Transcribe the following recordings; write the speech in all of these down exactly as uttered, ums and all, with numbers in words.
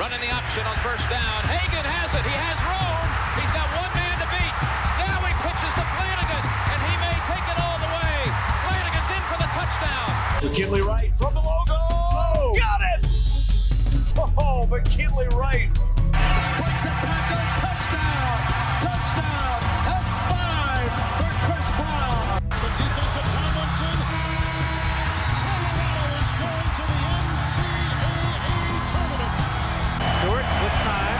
Running the option on first down. Hagan has it. He has room. He's got one man to beat. Now he pitches to Flanagan, and he may take it all the way. Flanagan's in for the touchdown. McKinley Wright from the logo. Oh, got it! Oh, McKinley Wright. Breaks a tackle. Touchdown. Touchdown. That's five for Chris Brown. The defense of Tomlinson. Colorado is going to the N C double A tournament. Stewart with time.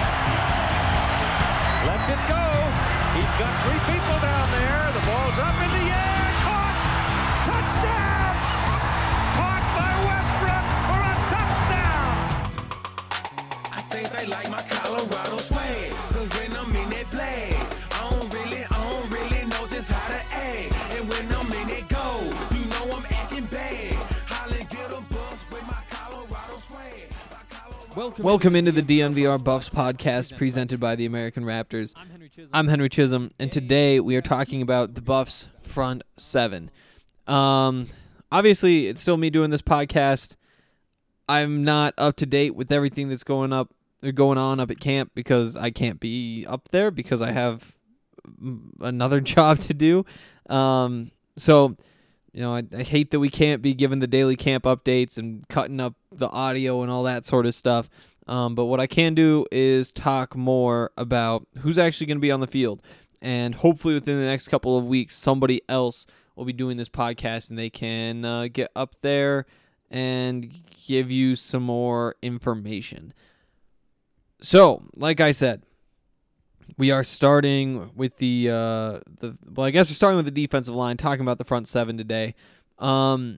Lets it go. He's got three people down there. The ball's up in the air. Caught. Touchdown. Caught by Westbrook for a touchdown. I think they like my Colorado swag. Cause when I'm in that flag, I don't really, I don't really know just how to act. And when I'm in that goal, you know I'm acting bad. Holland get a bus with my Colorado swag. My Colorado Welcome, Welcome into the D N V R Buffs podcast presented by the American Raptors. I'm Henry Chisholm, I'm Henry Chisholm and today we are talking about the Buffs front seven. Um, obviously, it's still me doing this podcast. I'm not up to date with everything that's going up, or going on up at camp because I can't be up there because I have another job to do. Um, so, you know, I, I hate that we can't be given the daily camp updates and cutting up the audio and all that sort of stuff. Um, but what I can do is talk more about who's actually going to be on the field. And hopefully within the next couple of weeks, somebody else will be doing this podcast and they can uh, get up there and give you some more information. So, like I said, we are starting with the, uh, the well, I guess we're starting with the defensive line, talking about the front seven today. Um,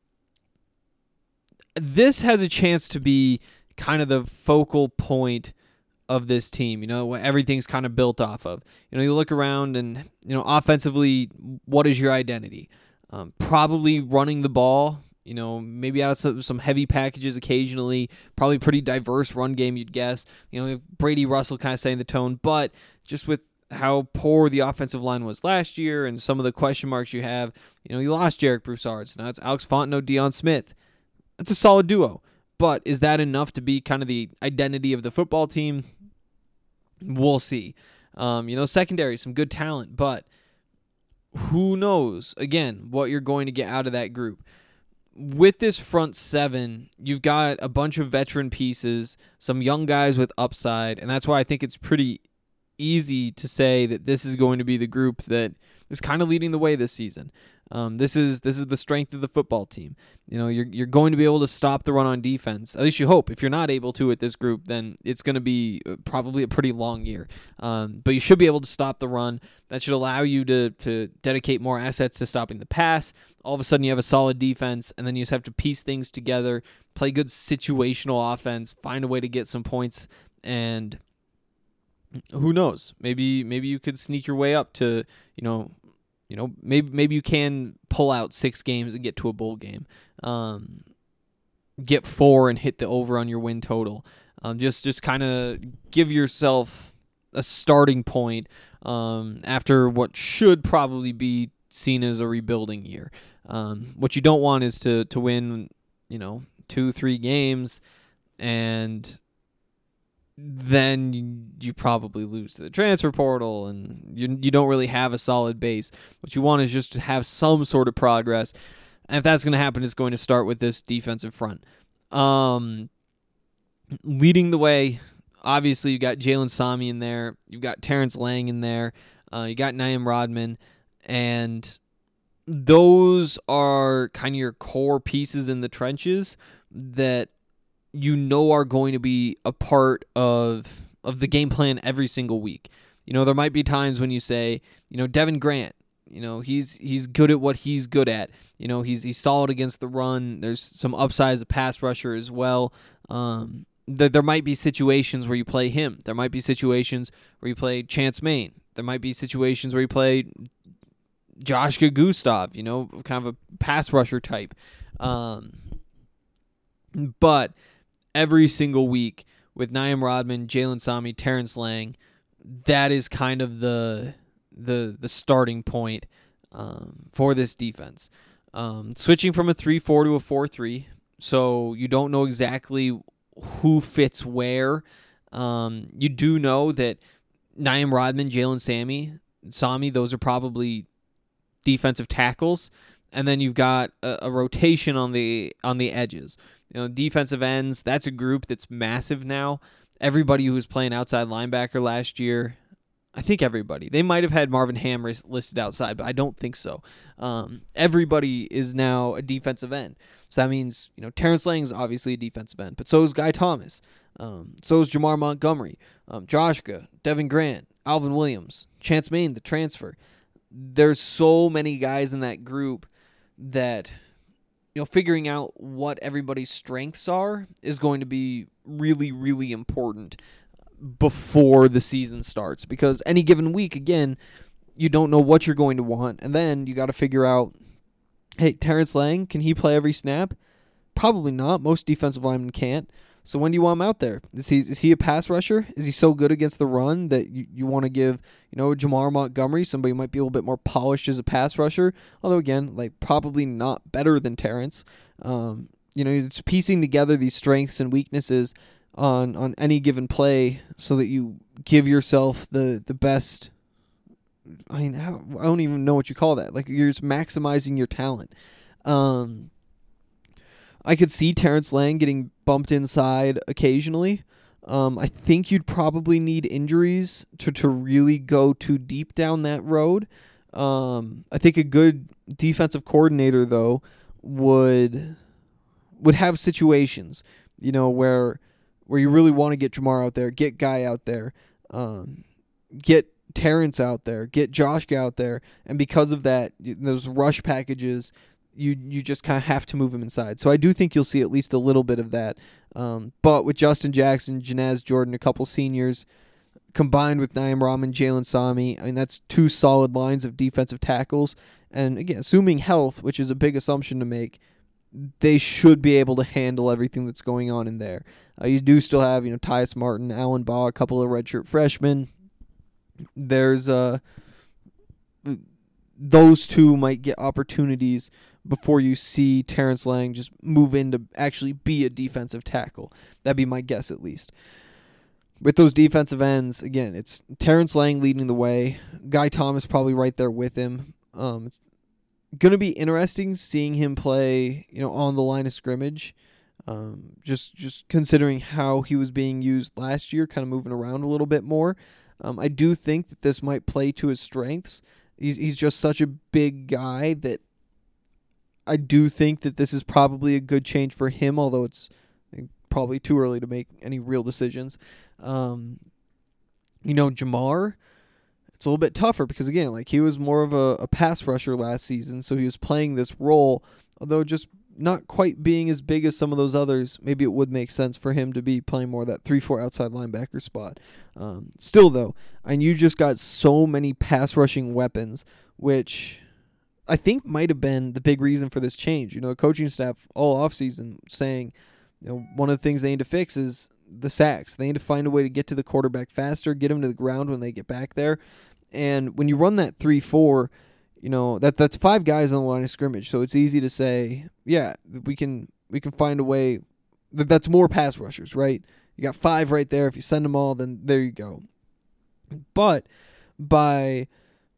this has a chance to be kind of the focal point of this team, you know, what everything's kind of built off of. You know, you look around and, you know, offensively, what is your identity? Um, probably running the ball. You know, maybe out of some, some heavy packages occasionally, probably pretty diverse run game, you'd guess. You know, Brady Russell kind of setting the tone, but just with how poor the offensive line was last year and some of the question marks you have, you know, you lost Jarek Broussard. So now it's Alex Fontenot, Deion Smith. That's a solid duo, but is that enough to be kind of the identity of the football team? We'll see. Um, you know, secondary, some good talent, but who knows, again, what you're going to get out of that group. With this front seven, you've got a bunch of veteran pieces, some young guys with upside, and that's why I think it's pretty easy to say that this is going to be the group that is kind of leading the way this season. Um, this is this is the strength of the football team. You know, you're you're going to be able to stop the run on defense. At least you hope. If you're not able to with this group, then it's going to be probably a pretty long year. Um, but you should be able to stop the run. That should allow you to to dedicate more assets to stopping the pass. All of a sudden, you have a solid defense, and then you just have to piece things together, play good situational offense, find a way to get some points, and who knows? Maybe maybe you could sneak your way up to, you know, you know, maybe maybe you can pull out six games and get to a bowl game, um, get four and hit the over on your win total. Um, just just kind of give yourself a starting point um, after what should probably be seen as a rebuilding year. Um, what you don't want is to to win, you know, two three games and then you, you probably lose to the transfer portal and you you don't really have a solid base. What you want is just to have some sort of progress. And if that's going to happen, it's going to start with this defensive front. Um, leading the way, obviously, you got Jalen Sami in there. You've got Terrence Lang in there. Uh, you got Naim Rodman. And those are kind of your core pieces in the trenches that you know are going to be a part of of the game plan every single week. You know, there might be times when you say, you know, Devin Grant, you know, he's he's good at what he's good at. You know, he's he's solid against the run. There's some upside as a pass rusher as well. Um, there, there might be situations where you play him. There might be situations where you play Chance Main. There might be situations where you play Josh Gustav, you know, kind of a pass rusher type. Um, but every single week with Naim Rodman, Jalen Sami, Terrence Lang, that is kind of the the the starting point um, for this defense. Um, switching from a three four to a four three, so you don't know exactly who fits where. Um, you do know that Naeem Rodman, Jalen Sammy, Sami, those are probably defensive tackles, and then you've got a, a rotation on the on the edges. You know, defensive ends, that's a group that's massive now. Everybody who was playing outside linebacker last year, I think everybody. They might have had Marvin Ham listed outside, but I don't think so. Um, everybody is now a defensive end. So that means, you know, Terrence Lang is obviously a defensive end, but so is Guy Thomas. Um, so is Jamar Montgomery, um, Joshka, Devin Grant, Alvin Williams, Chance Main, the transfer. There's so many guys in that group that, you know, figuring out what everybody's strengths are is going to be really, really important before the season starts, because any given week, again, you don't know what you're going to want, and then you got to figure out, hey, Terrence Lang, can he play every snap? Probably not. Most defensive linemen can't. So when do you want him out there? Is he is he a pass rusher? Is he so good against the run that you, you want to give, you know, Jamar Montgomery, somebody who might be a little bit more polished as a pass rusher? Although, again, like probably not better than Terrence. Um, you know, it's piecing together these strengths and weaknesses on, on any given play so that you give yourself the, the best. I mean, how, I don't even know what you call that. Like, you're just maximizing your talent. Um, I could see Terrence Lang getting bumped inside occasionally. Um, I think you'd probably need injuries to, to really go too deep down that road. Um, I think a good defensive coordinator, though, would would have situations, you know, where where you really want to get Jamar out there, get Guy out there, um, get Terrence out there, get Josh out there, and because of that, those rush packages, you you just kind of have to move him inside. So I do think you'll see at least a little bit of that. Um, but with Justin Jackson, Janaz Jordan, a couple seniors, combined with Naeem Rahman, Jalen Sami, I mean, that's two solid lines of defensive tackles. And again, assuming health, which is a big assumption to make, they should be able to handle everything that's going on in there. Uh, you do still have, you know, Tyus Martin, Alan Baugh, a couple of redshirt freshmen. There's uh, those two might get opportunities before you see Terrence Lang just move in to actually be a defensive tackle. That'd be my guess, at least. With those defensive ends, again, it's Terrence Lang leading the way. Guy Thomas probably right there with him. Um, it's going to be interesting seeing him play, you know, on the line of scrimmage. Um, just just considering how he was being used last year, kind of moving around a little bit more. Um, I do think that this might play to his strengths. He's he's just such a big guy that I do think that this is probably a good change for him, although it's probably too early to make any real decisions. Um, you know, Jamar, it's a little bit tougher because, again, like he was more of a, a pass rusher last season, so he was playing this role, although just not quite being as big as some of those others. Maybe it would make sense for him to be playing more of that three four outside linebacker spot. Um, still, though, and you just got so many pass rushing weapons, which I think might have been the big reason for this change. You know, the coaching staff all offseason saying, you know, one of the things they need to fix is the sacks. They need to find a way to get to the quarterback faster, get them to the ground when they get back there. And when you run that three four, you know, that that's five guys on the line of scrimmage, so it's easy to say, yeah, we can we can find a way. That that's more pass rushers, right? You got five right there. If you send them all, then there you go. But by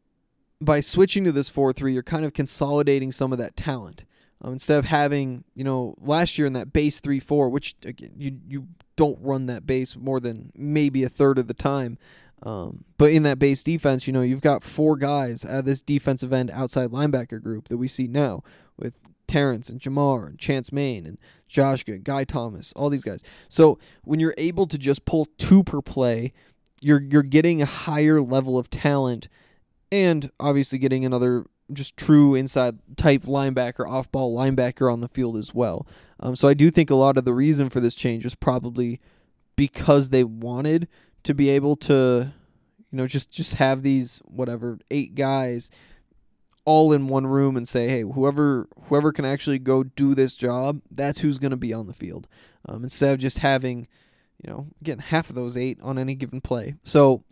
by switching to this four three, you're kind of consolidating some of that talent. Um, instead of having, you know, last year in that base three four, which, again, you you don't run that base more than maybe a third of the time. Um, but in that base defense, you know, you've got four guys out of this defensive end outside linebacker group that we see now with Terrence and Jamar and Chance Main and Joshka, Guy Thomas, all these guys. So when you're able to just pull two per play, you're you're getting a higher level of talent and obviously getting another just true inside type linebacker, off-ball linebacker on the field as well. Um, so I do think a lot of the reason for this change is probably because they wanted to be able to, you know, just, just have these, whatever, eight guys all in one room and say, hey, whoever whoever can actually go do this job, that's who's going to be on the field. Um, instead of just having, you know, again, half of those eight on any given play. So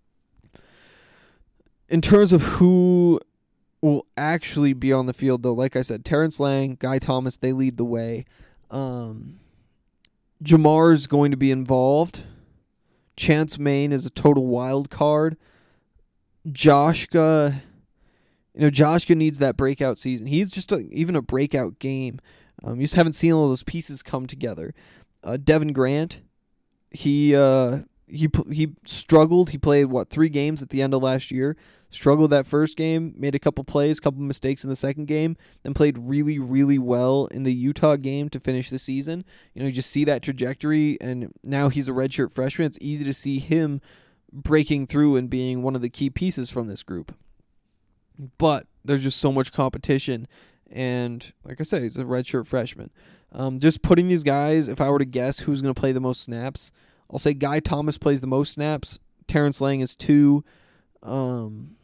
in terms of who will actually be on the field, though, like I said, Terrence Lang, Guy Thomas, they lead the way. Um, Jamar's going to be involved. Chance Main is a total wild card. Joshka, you know, Joshka needs that breakout season. He's just a, even a breakout game. Um, you just haven't seen all those pieces come together. Uh, Devin Grant, he uh, he he struggled. He played what three games at the end of last year. Struggled that first game, made a couple plays, couple mistakes in the second game, then played really, really well in the Utah game to finish the season. You know, you just see that trajectory, and now he's a redshirt freshman. It's easy to see him breaking through and being one of the key pieces from this group. But there's just so much competition, and like I said, he's a redshirt freshman. Um, just putting these guys, if I were to guess who's going to play the most snaps, I'll say Guy Thomas plays the most snaps. Terrence Lang is two. Um...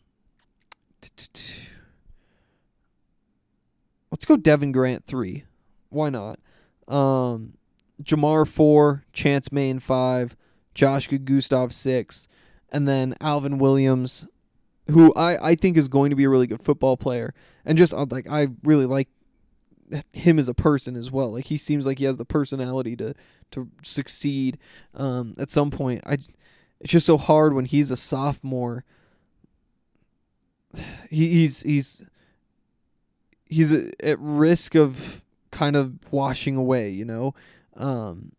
Let's go Devin Grant three. Why not? Um, Jamar four, Chance Main five, Joshua Gustav six, and then Alvin Williams, who I, I think is going to be a really good football player, and just uh, like I really like him as a person as well. Like he seems like he has the personality to to succeed um, at some point. I it's just so hard when he's a sophomore. He, he's he's he's at risk of kind of washing away, you know. Um,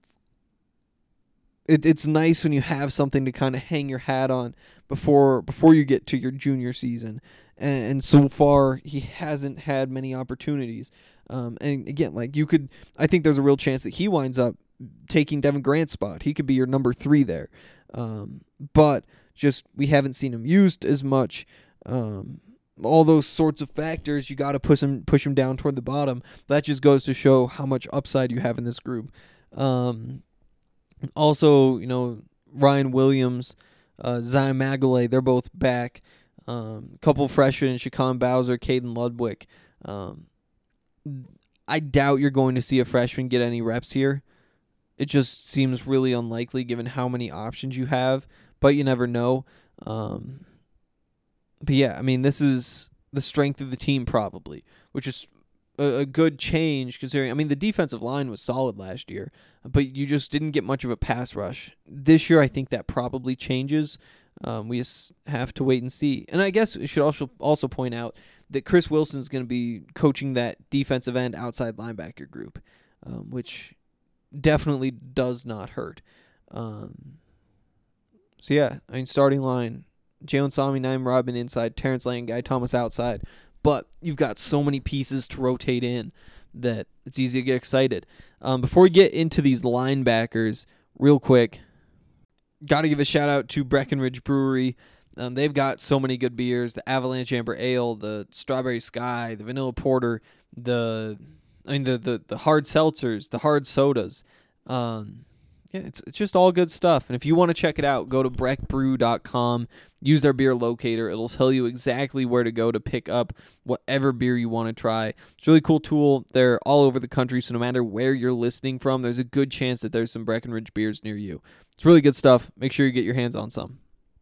it it's nice when you have something to kind of hang your hat on before before you get to your junior season, and, and so far he hasn't had many opportunities. Um, and again, like you could, I think there's a real chance that he winds up taking Devin Grant's spot. He could be your number three there, um, but just we haven't seen him used as much. Um, all those sorts of factors, you got to push him push him down toward the bottom. That just goes to show how much upside you have in this group. Um, also, you know, Ryan Williams, uh, Zion Magalay, they're both back. Um, a couple freshmen, Shaquan Bowser, Caden Ludwig. Um, I doubt you're going to see a freshman get any reps here. It just seems really unlikely given how many options you have, but you never know. Um, But yeah, I mean, this is the strength of the team probably, which is a, a good change considering, I mean, the defensive line was solid last year, but you just didn't get much of a pass rush. This year, I think that probably changes. Um, we just have to wait and see. And I guess we should also also point out that Chris Wilson is going to be coaching that defensive end outside linebacker group, um, which definitely does not hurt. Um, so yeah, I mean, starting line, Jalen Sami, Naim Rodman inside, Terrence Lang, Guy Thomas outside. But you've got so many pieces to rotate in that it's easy to get excited. Um, before we get into these linebackers, real quick, got to give a shout out to Breckenridge Brewery. Um, they've got so many good beers: the Avalanche Amber Ale, the Strawberry Sky, the Vanilla Porter, the I mean the the, the hard seltzers, the hard sodas. Um, Yeah, it's it's just all good stuff. And if you want to check it out, go to breck brew dot com. Use their beer locator. It'll tell you exactly where to go to pick up whatever beer you want to try. It's a really cool tool. They're all over the country, so no matter where you're listening from, there's a good chance that there's some Breckenridge beers near you. It's really good stuff. Make sure you get your hands on some.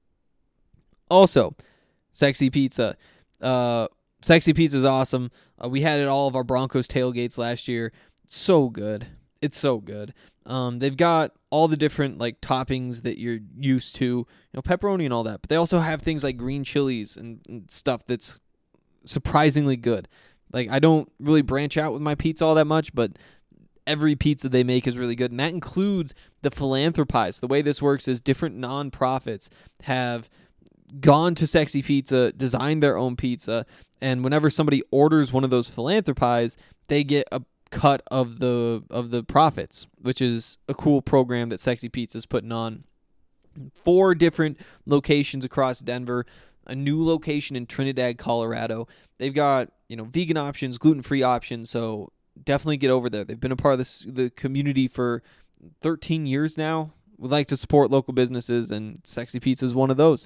Also, Sexy Pizza. Uh, Sexy Pizza is awesome. Uh, we had it at all of our Broncos tailgates last year. It's so good. It's so good. Um, they've got all the different like toppings that you're used to, you know, pepperoni and all that. But they also have things like green chilies and, and stuff that's surprisingly good. Like I don't really branch out with my pizza all that much, but every pizza they make is really good, and that includes the philanthropies. The way this works is different nonprofits have gone to Sexy Pizza, designed their own pizza, and whenever somebody orders one of those philanthropies, they get a cut of the of the profits, which is a cool program that Sexy Pizza is putting on. Four different locations across Denver, a new location in Trinidad, Colorado. They've got, you know, vegan options, gluten-free options, so definitely get over there. They've been a part of this, the community for thirteen years now. Would like to support local businesses, and Sexy Pizza is one of those.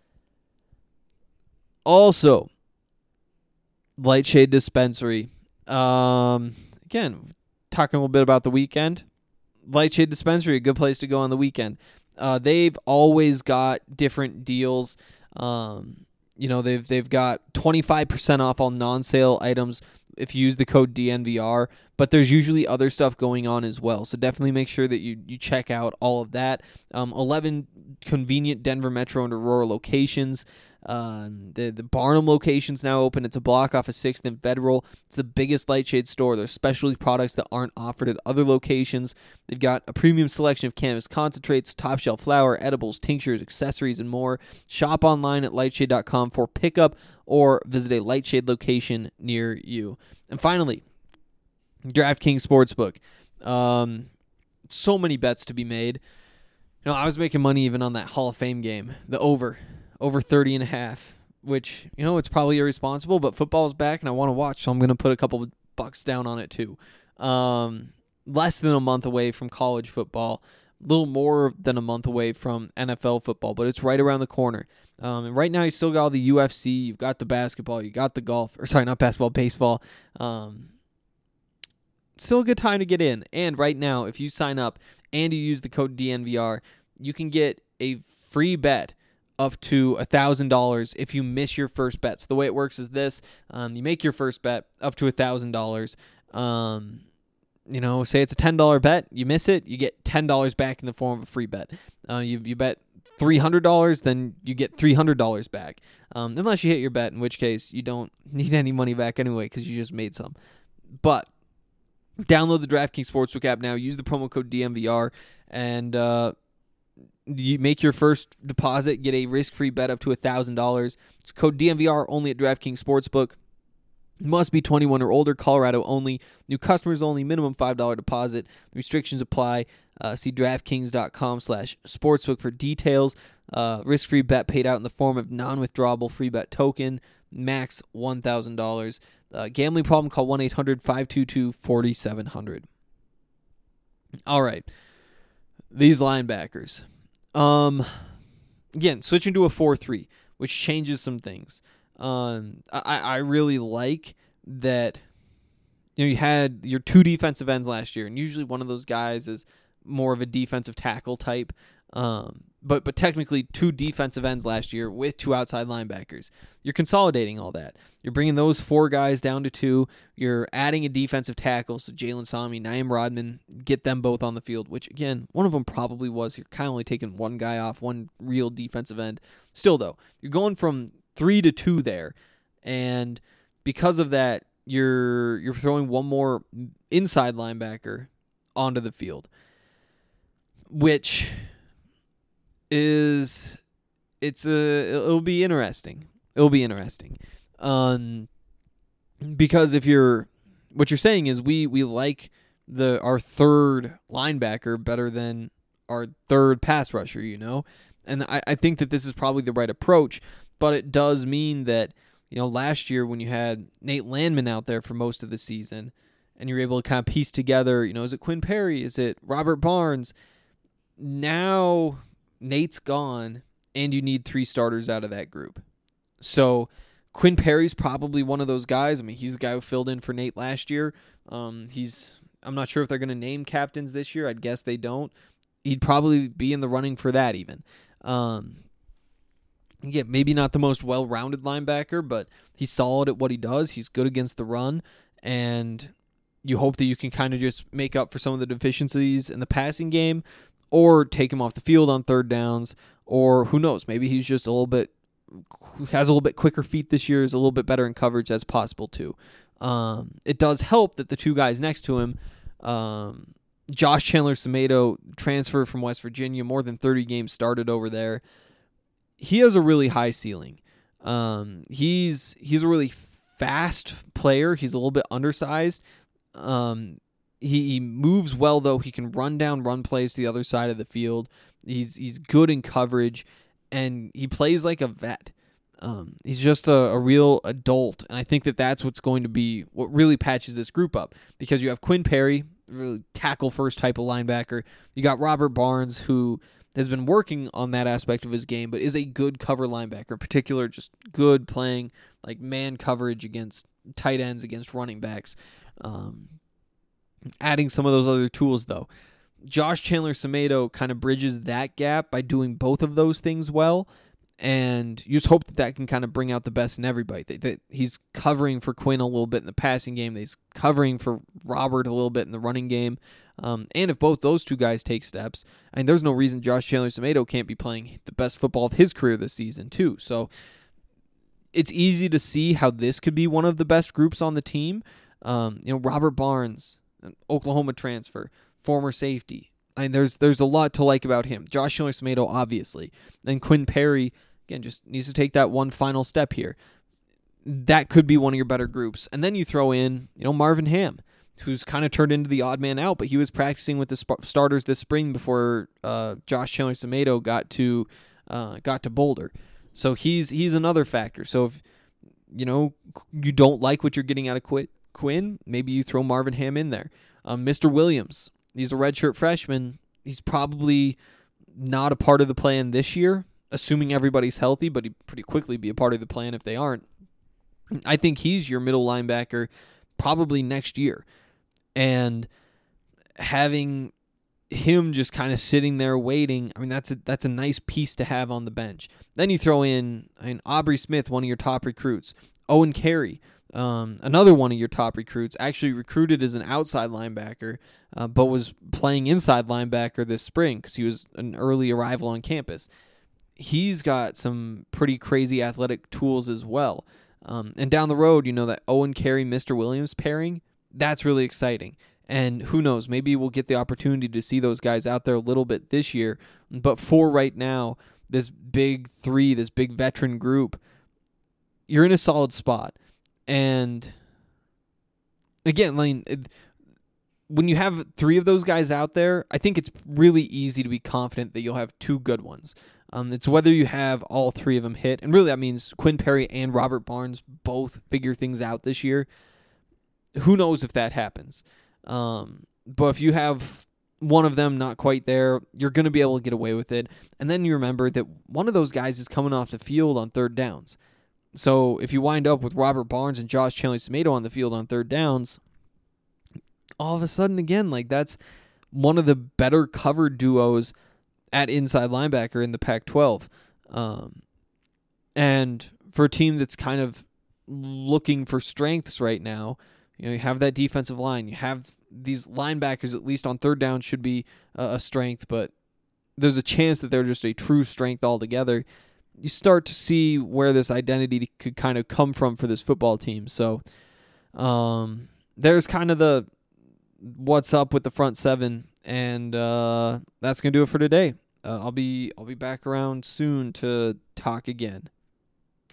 Also, Lightshade Dispensary. Um... Again, talking a little bit about the weekend. Lightshade Dispensary, a good place to go on the weekend. Uh, they've always got different deals. Um, you know, they've they've got twenty-five percent off all non-sale items if you use the code D N V R, but there's usually other stuff going on as well. So definitely make sure that you, you check out all of that. Um, eleven convenient Denver Metro and Aurora locations. Uh, the the Barnum location's now open. It's a block off of sixth and Federal. It's the biggest Lightshade store. There's specialty products that aren't offered at other locations. They've got a premium selection of cannabis concentrates, top shelf flower, edibles, tinctures, accessories, and more. Shop online at lightshade dot com for pickup or visit a Lightshade location near you. And finally, DraftKings Sportsbook. Um, so many bets to be made. You know, I was making money even on that Hall of Fame game, the over. Over thirty and a half, which, you know, it's probably irresponsible, but football's back and I want to watch, so I'm going to put a couple of bucks down on it too. Um, less than a month away from college football, a little more than a month away from N F L football, but it's right around the corner. Um, and right now you still got all the U F C, you've got the basketball, you got the golf, or sorry, not basketball, baseball. Um, still a good time to get in. And right now, if you sign up and you use the code D N V R, you can get a free bet up to one thousand dollars if you miss your first bet. So the way it works is this. Um, you make your first bet up to one thousand dollars. Um, you know, say it's a ten dollar bet. You miss it, you get ten dollars back in the form of a free bet. Uh, you, you bet three hundred dollars, then you get three hundred dollars back. Um, unless you hit your bet, in which case you don't need any money back anyway because you just made some. But download the DraftKings Sportsbook app now. Use the promo code D M V R and uh, you make your first deposit, get a risk-free bet up to one thousand dollars. It's code D M V R only at DraftKings Sportsbook. Must be twenty-one or older, Colorado only. New customers only, minimum five dollars deposit. Restrictions apply. Uh, see DraftKings.com slash sportsbook for details. Uh, risk-free bet paid out in the form of non-withdrawable free bet token. Max one thousand dollars. Uh, gambling problem, call one eight hundred five two two four seven zero zero. All right. These linebackers. Um, again, switching to a four three, which changes some things. Um, I, I really like that, you know, you had your two defensive ends last year, and usually one of those guys is more of a defensive tackle type. Um, but but technically two defensive ends last year with two outside linebackers. You're consolidating all that. You're bringing those four guys down to two. You're adding a defensive tackle, so Jalen Sami, Naeem Rodman, get them both on the field, which, again, one of them probably was. You're kind of only taking one guy off, one real defensive end. Still, though, you're going from three to two there, and because of that, you're you're throwing one more inside linebacker onto the field, which is it's a it'll be interesting. It'll be interesting, um, because if you're what you're saying is we we like the our third linebacker better than our third pass rusher, you know, and I, I think that this is probably the right approach, but it does mean that, you know, last year when you had Nate Landman out there for most of the season, and you're able to kind of piece together, you know, is it Quinn Perry, is it Robert Barnes? Now Nate's gone, and you need three starters out of that group. So Quinn Perry's probably one of those guys. I mean, he's the guy who filled in for Nate last year. Um, he's I'm not sure if they're going to name captains this year. I'd guess they don't. He'd probably be in the running for that even. Um, yeah, maybe not the most well-rounded linebacker, but he's solid at what he does. He's good against the run, and you hope that you can kind of just make up for some of the deficiencies in the passing game, or take him off the field on third downs, or who knows, maybe he's just a little bit, has a little bit quicker feet this year, is a little bit better in coverage. That's possible too. Um, it does help that the two guys next to him, um, Josh Chandler-Semedo, transfer from West Virginia, more than thirty games started over there. He has a really high ceiling. Um, he's he's a really fast player. He's a little bit undersized. Um, he, he moves well, though. He can run down run plays to the other side of the field. He's he's good in coverage, and he plays like a vet. Um, he's just a, a real adult, and I think that that's what's going to be what really patches this group up, because you have Quinn Perry, really tackle-first type of linebacker. You got Robert Barnes, who has been working on that aspect of his game, but is a good cover linebacker, in particular, just good playing like man coverage against tight ends, against running backs. Um, adding some of those other tools, though. Josh Chandler-Semedo kind of bridges that gap by doing both of those things well, And you just hope that that can kind of bring out the best in everybody. That, that he's covering for Quinn a little bit in the passing game. That he's covering for Robert a little bit in the running game. Um, and if both those two guys take steps, I mean, there's no reason Josh Chandler-Semedo can't be playing the best football of his career this season too. So it's easy to see how this could be one of the best groups on the team. Um, you know, Robert Barnes, an Oklahoma transfer, former safety. I mean, there's there's a lot to like about him. Josh Chandler-Semedo, obviously. And Quinn Perry, again, just needs to take that one final step here. That could be one of your better groups. And then you throw in, you know, Marvin Ham, who's kind of turned into the odd man out, but he was practicing with the sp- starters this spring before uh, Josh Chandler-Semedo got to uh, got to Boulder. So he's he's another factor. So if you know you don't like what you're getting out of Qu- Quinn, maybe you throw Marvin Ham in there. Um, Mister Williams, he's a redshirt freshman. He's probably not a part of the plan this year, assuming everybody's healthy, but he'd pretty quickly be a part of the plan if they aren't. I think he's your middle linebacker probably next year. And having him just kind of sitting there waiting, I mean, that's a, that's a nice piece to have on the bench. Then you throw in, I mean, Aubrey Smith, one of your top recruits. Owen Carey, um, another one of your top recruits, actually recruited as an outside linebacker, uh, but was playing inside linebacker this spring because he was an early arrival on campus. He's got some pretty crazy athletic tools as well. Um, and down the road, you know, that Owen Carey, Mister Williams pairing, that's really exciting. And who knows, maybe we'll get the opportunity to see those guys out there a little bit this year. But for right now, this big three, this big veteran group, you're in a solid spot. And again, Lane, when you have three of those guys out there, I think it's really easy to be confident that you'll have two good ones. Um, it's whether you have all three of them hit. And really that means Quinn Perry and Robert Barnes both figure things out this year. Who knows if that happens? Um, but if you have one of them not quite there, you're going to be able to get away with it. And then you remember that one of those guys is coming off the field on third downs. So if you wind up with Robert Barnes and Josh Chandler-Semedo on the field on third downs, all of a sudden, again, like that's one of the better covered duos at inside linebacker in the Pac twelve. Um, and for a team that's kind of looking for strengths right now, you know, you have that defensive line. You have these linebackers, at least on third down, should be uh, a strength, but there's a chance that they're just a true strength altogether. You start to see where this identity could kind of come from for this football team. So um, there's kind of the what's up with the front seven, and uh, that's gonna do it for today. Uh, I'll be I'll be back around soon to talk again.